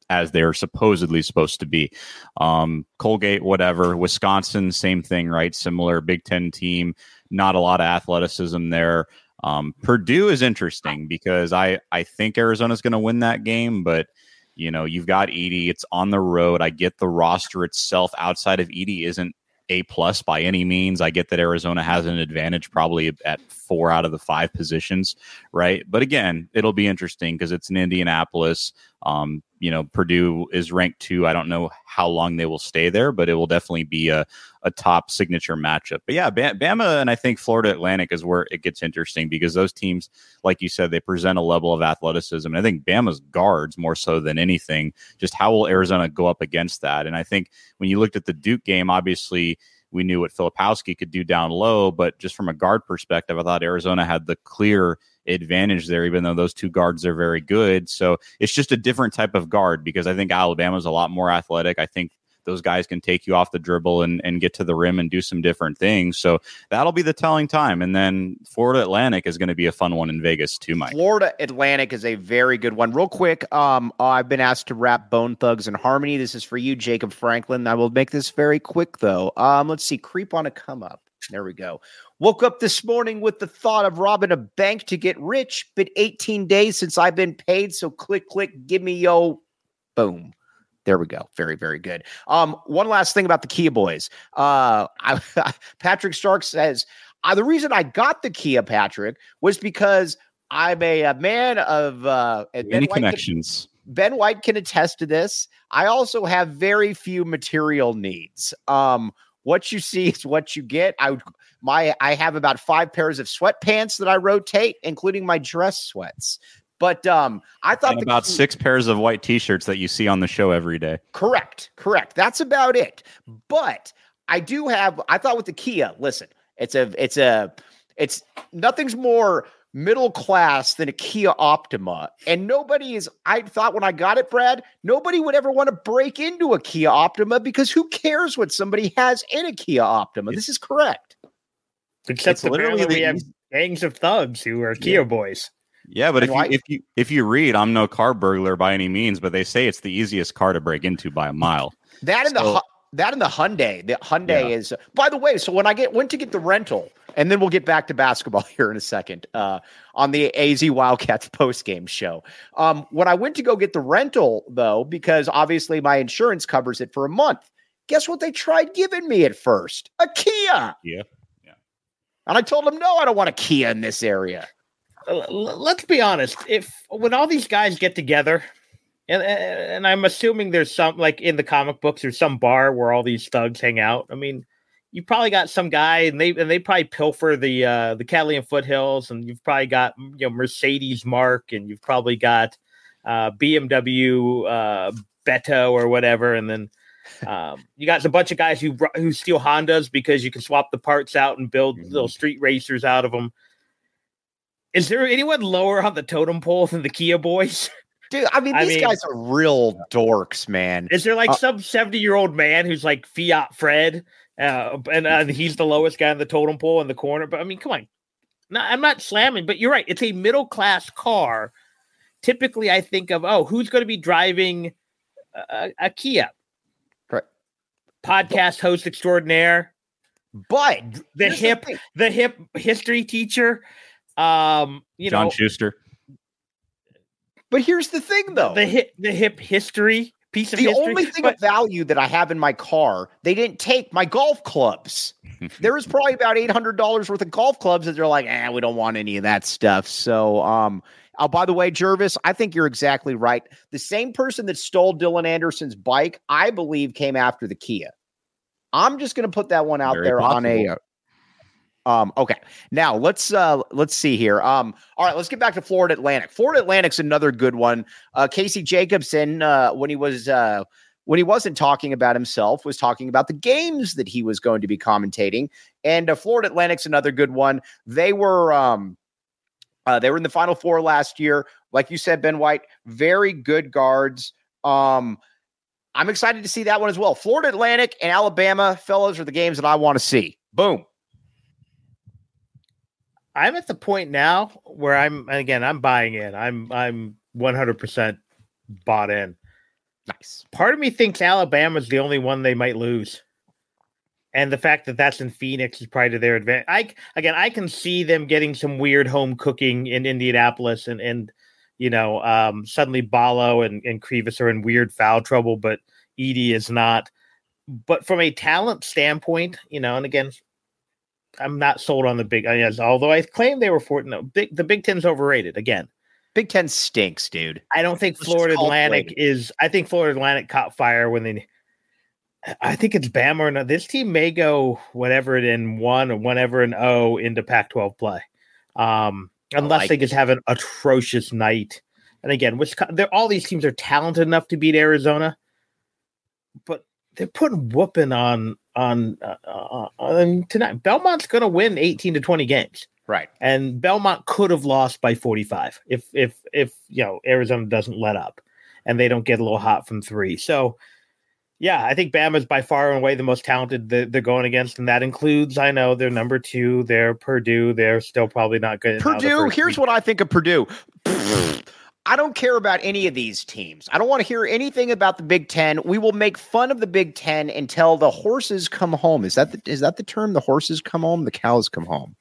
as they're supposedly supposed to be. Um, Colgate, whatever. Wisconsin, same thing, right? Similar Big Ten team. Not a lot of athleticism there. Um, Purdue is interesting because I, I think Arizona's going to win that game, but you know, you've got Edey. It's on the road. I get the roster itself outside of Edey isn't A plus by any means. I get that Arizona has an advantage probably at four out of the five positions, right? But again, it'll be interesting because it's in Indianapolis. Um, you know, Purdue is ranked two. I don't know how long they will stay there, but it will definitely be a, a top signature matchup. But yeah, Bama and I think Florida Atlantic is where it gets interesting because those teams, like you said, they present a level of athleticism. And I think Bama's guards more so than anything. Just how will Arizona go up against that? And I think when you looked at the Duke game, obviously we knew what Filipowski could do down low, but just from a guard perspective, I thought Arizona had the clear advantage there, even though those two guards are very good. So it's just a different type of guard because I think Alabama's a lot more athletic. I think those guys can take you off the dribble and, and get to the rim and do some different things. So that'll be the telling time. And then Florida Atlantic is going to be a fun one in Vegas too, Mike. Florida Atlantic is a very good one. Real quick, um, I've been asked to wrap Bone Thugs and Harmony. This is for you, Jacob Franklin. I will make this very quick, though. Um, let's see. Creep on a come up. There we go. Woke up this morning with the thought of robbing a bank to get rich. Been eighteen days since I've been paid. So click, click, give me yo. Boom. There we go. Very, very good. Um, one last thing about the Kia boys. Uh, I, Patrick Stark says, uh, the reason I got the Kia, Patrick, was because I'm a, a man of uh, many connections. Can, Ben White can attest to this. I also have very few material needs. Um, what you see is what you get. I would, my I have about five pairs of sweatpants that I rotate, including my dress sweats. But um, I thought and about key, six pairs of white T-shirts that you see on the show every day. Correct, correct. That's about it. But I do have. I thought with the Kia, listen, it's a, it's a, it's nothing's more middle class than a Kia Optima, and nobody is. I thought when I got it, Brad, nobody would ever want to break into a Kia Optima because who cares what somebody has in a Kia Optima? This is correct. Except literally we have gangs of thugs who are Kia yeah. boys. Yeah, but if you, if you if you read, I'm no car burglar by any means, but they say it's the easiest car to break into by a mile. That and so, the that and the Hyundai. The Hyundai yeah. is. By the way, so when I get went to get the rental, and then we'll get back to basketball here in a second uh, on the A Z Wildcats postgame show. Um, when I went to go get the rental, though, because obviously my insurance covers it for a month. Guess what they tried giving me at first? A Kia. Yeah, yeah. And I told them, no, I don't want a Kia in this area. Let's be honest. If when all these guys get together, and and I'm assuming there's some like in the comic books, there's some bar where all these thugs hang out. I mean, you probably got some guy, and they and they probably pilfer the uh, the Catalina foothills, and you've probably got you know Mercedes Mark, and you've probably got uh, B M W uh, Beto or whatever, and then um, you got a bunch of guys who who steal Hondas because you can swap the parts out and build mm-hmm. little street racers out of them. Is there anyone lower on the totem pole than the Kia boys? Dude, I mean, these I mean, guys are real dorks, man. Is there like uh, some seventy-year-old man who's like Fiat Fred, uh, and uh, he's the lowest guy on the totem pole in the corner? But I mean, come on. No, I'm not slamming, but you're right. It's a middle-class car. Typically, I think of, oh, who's going to be driving a, a Kia? Right. Podcast host extraordinaire. But the hip, the, the hip history teacher. Um, you John know, Schuster. But here's the thing, though: the hip, the hip history piece of the history. only thing but, of value that I have in my car, they didn't take my golf clubs. There is probably about eight hundred dollars worth of golf clubs that they're like, eh, we don't want any of that stuff. So, um, oh, by the way, Jervis, I think you're exactly right. The same person that stole Dylan Anderson's bike, I believe, came after the Kia. I'm just going to put that one out Very there possible. on a. Uh, Um, okay, now let's uh, let's see here. Um, all right, let's get back to Florida Atlantic. Florida Atlantic's another good one. Uh, Casey Jacobson, uh, when he was uh, when he wasn't talking about himself, was talking about the games that he was going to be commentating. And uh, Florida Atlantic's another good one. They were um, uh, they were in the Final Four last year, like you said, Ben White. Very good guards. Um, I'm excited to see that one as well. Florida Atlantic and Alabama, fellas, are the games that I want to see. Boom. I'm at the point now where I'm, again, I'm buying in. I'm, I'm one hundred percent bought in. Nice. Part of me thinks Alabama's the only one they might lose. And the fact that that's in Phoenix is probably to their advantage. I, again, I can see them getting some weird home cooking in Indianapolis and, and you know, um, suddenly Ballo and, and Krivas are in weird foul trouble, but Edey is not. But from a talent standpoint, you know, and again, I'm not sold on the Big, I mean, although I claim they were for no, big, the Big Ten's overrated again. Big Ten stinks, dude. I don't think Let's Florida Atlantic is. I think Florida Atlantic caught fire when they. I think it's Bama or not. This team may go whatever it in one or whatever an O into Pac twelve play, um, unless like they just it. have an atrocious night. And again, Wisconsin, all these teams are talented enough to beat Arizona, but they're putting whooping on on, uh, on tonight. Belmont's going to win eighteen to twenty games. Right. And Belmont could have lost by forty-five if, if, if, you know, Arizona doesn't let up and they don't get a little hot from three. So, yeah, I think Bama is by far and away the most talented that they're going against. And that includes, I know they're number two, they're Purdue. They're still probably not good. Purdue. Here's week. what I think of Purdue. I don't care about any of these teams. I don't want to hear anything about the Big Ten. We will make fun of the Big Ten until the horses come home. Is that the, is that the term? The horses come home, the cows come home.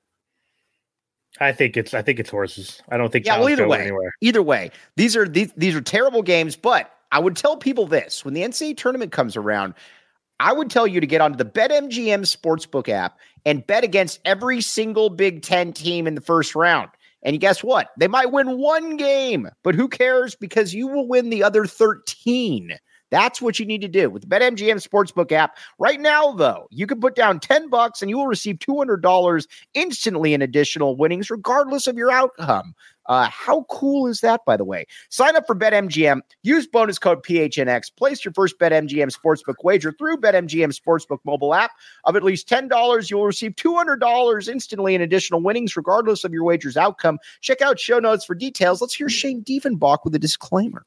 I think it's I think it's horses. I don't think yeah. Well, either way, anywhere. either way, these are these these are terrible games. But I would tell people this: when the N C double A tournament comes around, I would tell you to get onto the BetMGM Sportsbook app and bet against every single Big Ten team in the first round. And guess what? They might win one game, but who cares? Because you will win the other thirteen. That's what you need to do with the BetMGM Sportsbook app. Right now, though, you can put down ten bucks and you will receive two hundred dollars instantly in additional winnings, regardless of your outcome. Uh, how cool is that, by the way? Sign up for BetMGM. Use bonus code P H N X. Place your first BetMGM Sportsbook wager through BetMGM Sportsbook mobile app of at least ten dollars. You will receive two hundred dollars instantly in additional winnings, regardless of your wager's outcome. Check out show notes for details. Let's hear Shane Diefenbach with a disclaimer.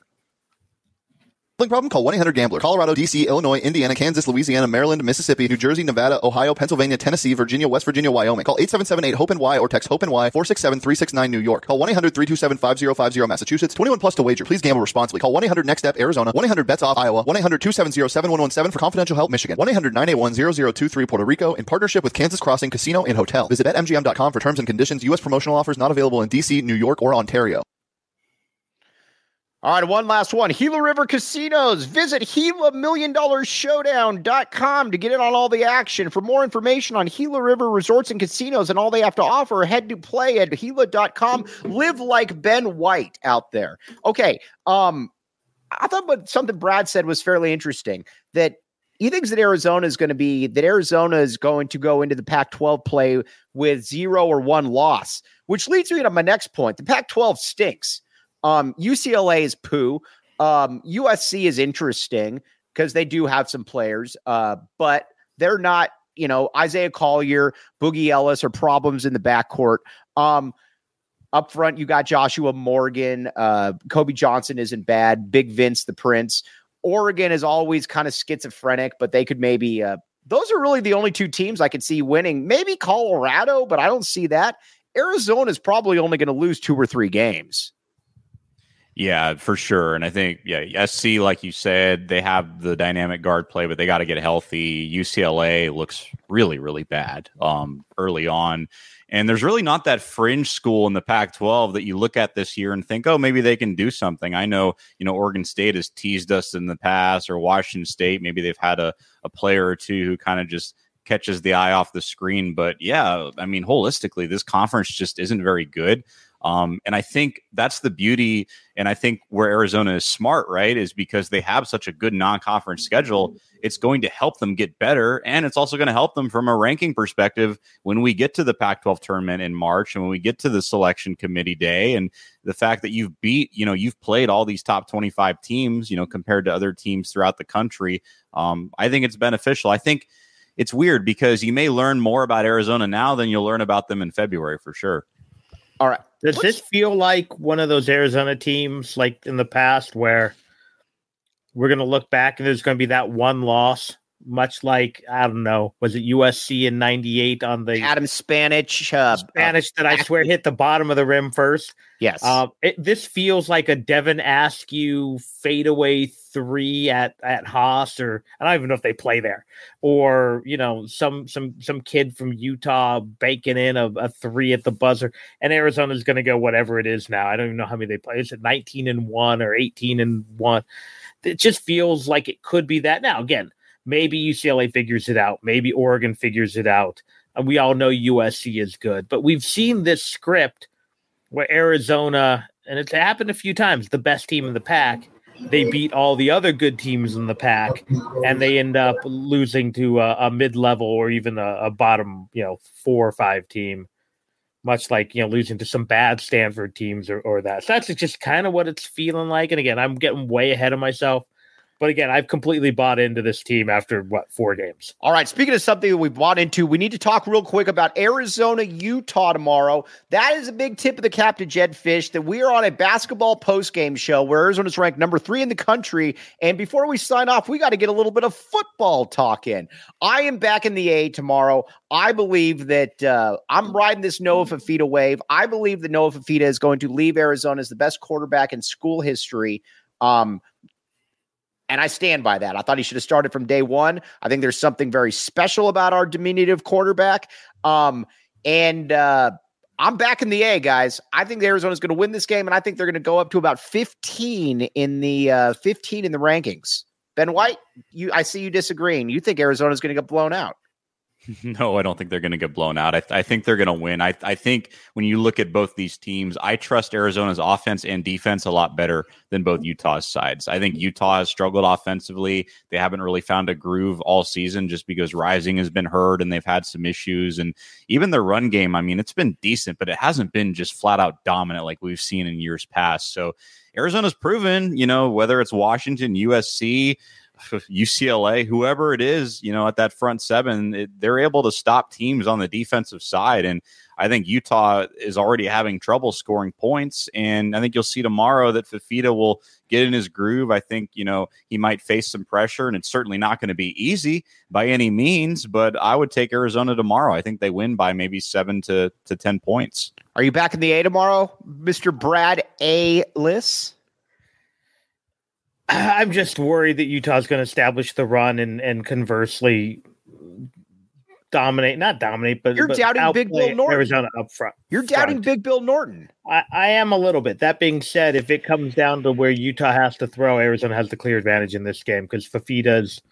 Problem? Call one eight hundred gambler. Colorado, D C, Illinois, Indiana, Kansas, Louisiana, Maryland, Mississippi, New Jersey, Nevada, Ohio, Pennsylvania, Tennessee, Virginia, West Virginia, Wyoming. Call eight seven seven eight hope N Y or text hope N Y four six seven three six nine New York. Call one eight hundred three two seven five zero five zero Massachusetts. twenty-one plus to wager. Please gamble responsibly. Call one eight hundred next step Arizona. one eight hundred bets off Iowa. one eight hundred two seven zero seven one one seven for confidential help Michigan. one eight hundred nine eight one zero zero two three Puerto Rico in partnership with Kansas Crossing Casino and Hotel. Visit bet M G M dot com for terms and conditions. U S promotional offers not available in D C, New York, or Ontario. All right, one last one. Gila River Casinos. Visit Gila Million Dollar Showdown dot com to get in on all the action. For more information on Gila River Resorts and Casinos and all they have to offer, head to play at Gila dot com. Live like Ben White out there. Okay, um, I thought what something Brad said was fairly interesting, that he thinks that Arizona is going to be, that Arizona is going to go into the Pac twelve play with zero or one loss, which leads me to my next point. The Pac twelve stinks. Um, U C L A is poo. Um, U S C is interesting because they do have some players, uh, but they're not, you know, Isaiah Collier, Boogie Ellis are problems in the backcourt. Um, up front, you got Joshua Morgan. Uh, Kobe Johnson isn't bad. Big Vince, the Prince. Oregon is always kind of schizophrenic, but they could maybe, uh, those are really the only two teams I could see winning. Maybe Colorado, but I don't see that. Arizona is probably only going to lose two or three games. Yeah, for sure. And I think, yeah, S C, like you said, they have the dynamic guard play, but they got to get healthy. U C L A looks really, really bad um, early on. And there's really not that fringe school in the Pac twelve that you look at this year and think, oh, maybe they can do something. I know, you know, Oregon State has teased us in the past, or Washington State. Maybe they've had a, a player or two who kind of just catches the eye off the screen. But yeah, I mean, holistically, this conference just isn't very good. Um, and I think that's the beauty. And I think where Arizona is smart, right, is because they have such a good non-conference schedule. It's going to help them get better. And it's also going to help them from a ranking perspective when we get to the Pac twelve tournament in March and when we get to the selection committee day. And the fact that you've beat, you know, you've played all these top twenty-five teams, you know, compared to other teams throughout the country. Um, I think it's beneficial. I think it's weird because you may learn more about Arizona now than you'll learn about them in February for sure. All right. Does What's, this feel like one of those Arizona teams like in the past where we're going to look back and there's going to be that one loss, much like, I don't know, was it U S C in ninety-eight on the Adam Spanish? Uh, Spanish that I swear hit the bottom of the rim first. Yes. Uh, it, this feels like a Devin Askew fadeaway three at at Haas, or I don't even know if they play there, or you know some some some kid from Utah banking in a, a three at the buzzer, and Arizona's going to go whatever it is now. I don't even know how many they play. Is it nineteen and one or eighteen and one? It just feels like it could be that. Now again, maybe U C L A figures it out, maybe Oregon figures it out. And we all know U S C is good, but we've seen this script where Arizona, and it's happened a few times, the best team in the pack, they beat all the other good teams in the pack, and they end up losing to a, a mid-level or even a, a bottom, you know, four or five team, much like, you know, losing to some bad Stanford teams or, or that. So that's just kind of what it's feeling like. And again, I'm getting way ahead of myself. But again, I've completely bought into this team after, what, four games. All right, speaking of something that we bought into, we need to talk real quick about Arizona, Utah tomorrow. That is a big tip of the cap to Jed Fish that we are on a basketball postgame show where Arizona's ranked number three in the country. And before we sign off, we got to get a little bit of football talk in. I am back in the A tomorrow. I believe that uh, I'm riding this Noah Fifita wave. I believe that Noah Fifita is going to leave Arizona as the best quarterback in school history. Um, And I stand by that. I thought he should have started from day one. I think there's something very special about our diminutive quarterback. Um, and uh, I'm back in the A, guys. I think Arizona's going to win this game, and I think they're going to go up to about fifteen in the uh, fifteen in the rankings. Ben White, you, I see you disagreeing. You think Arizona's going to get blown out? No, I don't think they're going to get blown out. I, th- I think they're going to win. I, I think when you look at both these teams, I trust Arizona's offense and defense a lot better than both Utah's sides. I think Utah has struggled offensively. They haven't really found a groove all season just because Rising has been hurt and they've had some issues. And even their run game, I mean, it's been decent, but it hasn't been just flat out dominant like we've seen in years past. So Arizona's proven, you know, whether it's Washington, U S C, U C L A, whoever it is, you know, at that front seven, it, they're able to stop teams on the defensive side. And I think Utah is already having trouble scoring points. And I think you'll see tomorrow that Fifita will get in his groove. I think, you know, he might face some pressure, and it's certainly not going to be easy by any means, but I would take Arizona tomorrow. I think they win by maybe seven to, to ten points. Are you back in the A tomorrow, Mister Brad A. Liss? I'm just worried that Utah's going to establish the run and, and conversely dominate, not dominate, but you're but doubting Big Bill Norton. Arizona up front. You're doubting front. Big Bill Norton. I, I am a little bit. That being said, if it comes down to where Utah has to throw, Arizona has the clear advantage in this game because Fifita's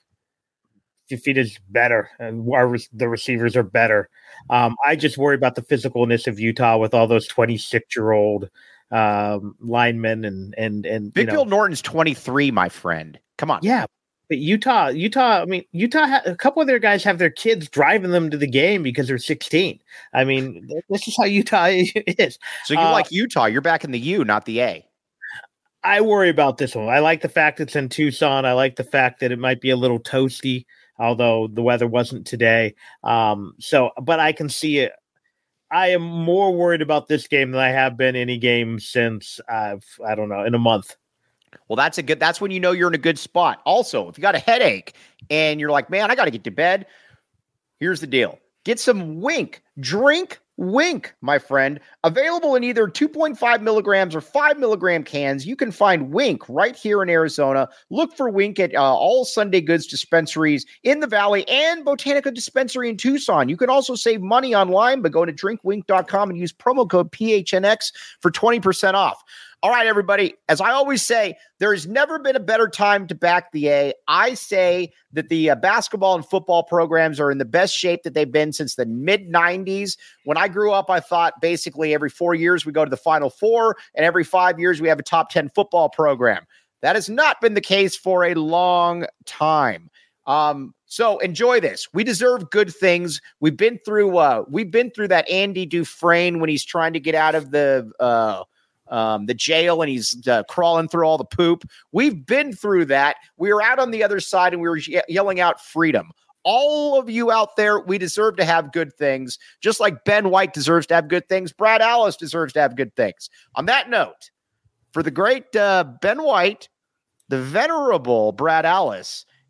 Fifita's better and our, the receivers are better. Um, I just worry about the physicalness of Utah with all those twenty-six year old um, linemen and and and Big you know, Bill Norton's twenty-three, my friend. Come on. Yeah. But Utah, Utah, I mean, Utah, ha- a couple of their guys have their kids driving them to the game because they're sixteen. I mean, this is how Utah is. So you uh, like Utah. You're back in the U, not the A. I worry about this one. I like the fact it's in Tucson. I like the fact that it might be a little toasty, although the weather wasn't today. Um, so, but I can see it. I am more worried about this game than I have been any game since, I've, I don't know, in a month. Well, that's a good, that's when you know you're in a good spot. Also, if you got a headache and you're like, man, I got to get to bed. Here's the deal. Get some Wink. Drink Wink, my friend. Available in either two point five milligrams or five milligram cans. You can find Wink right here in Arizona. Look for Wink at uh, all Sunday Goods dispensaries in the Valley and Botanica Dispensary in Tucson. You can also save money online by going to drink wink dot com and use promo code P H N X for twenty percent off. All right, everybody, as I always say, there has never been a better time to back the A. I say that the uh, basketball and football programs are in the best shape that they've been since the mid nineties. When I grew up, I thought basically every four years we go to the Final Four, and every five years we have a top ten football program. That has not been the case for a long time. Um, so enjoy this. We deserve good things. We've been through uh, we've been through that Andy Dufresne when he's trying to get out of the uh, Um, the jail and he's uh, crawling through all the poop. We've been through that. We were out on the other side and we were ye- yelling out freedom. All of you out there, we deserve to have good things. Just like Ben White deserves to have good things, Brad Alice deserves to have good things. On that note, for the great uh, Ben White, the venerable Brad Alice,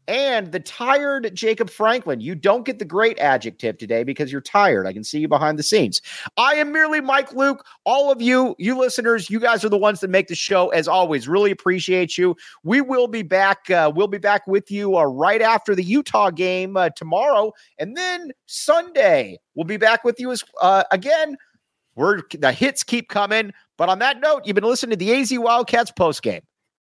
and the tired Jacob Franklin. You don't get the great adjective today because you're tired. I can see you behind the scenes. I am merely Mike Luke. All of you, you listeners, you guys are the ones that make the show. As always, really appreciate you. We will be back. Uh, we'll be back with you uh, right after the Utah game uh, tomorrow, and then Sunday we'll be back with you as uh, again. We're the hits keep coming. But on that note, you've been listening to the A Z Wildcats postgame.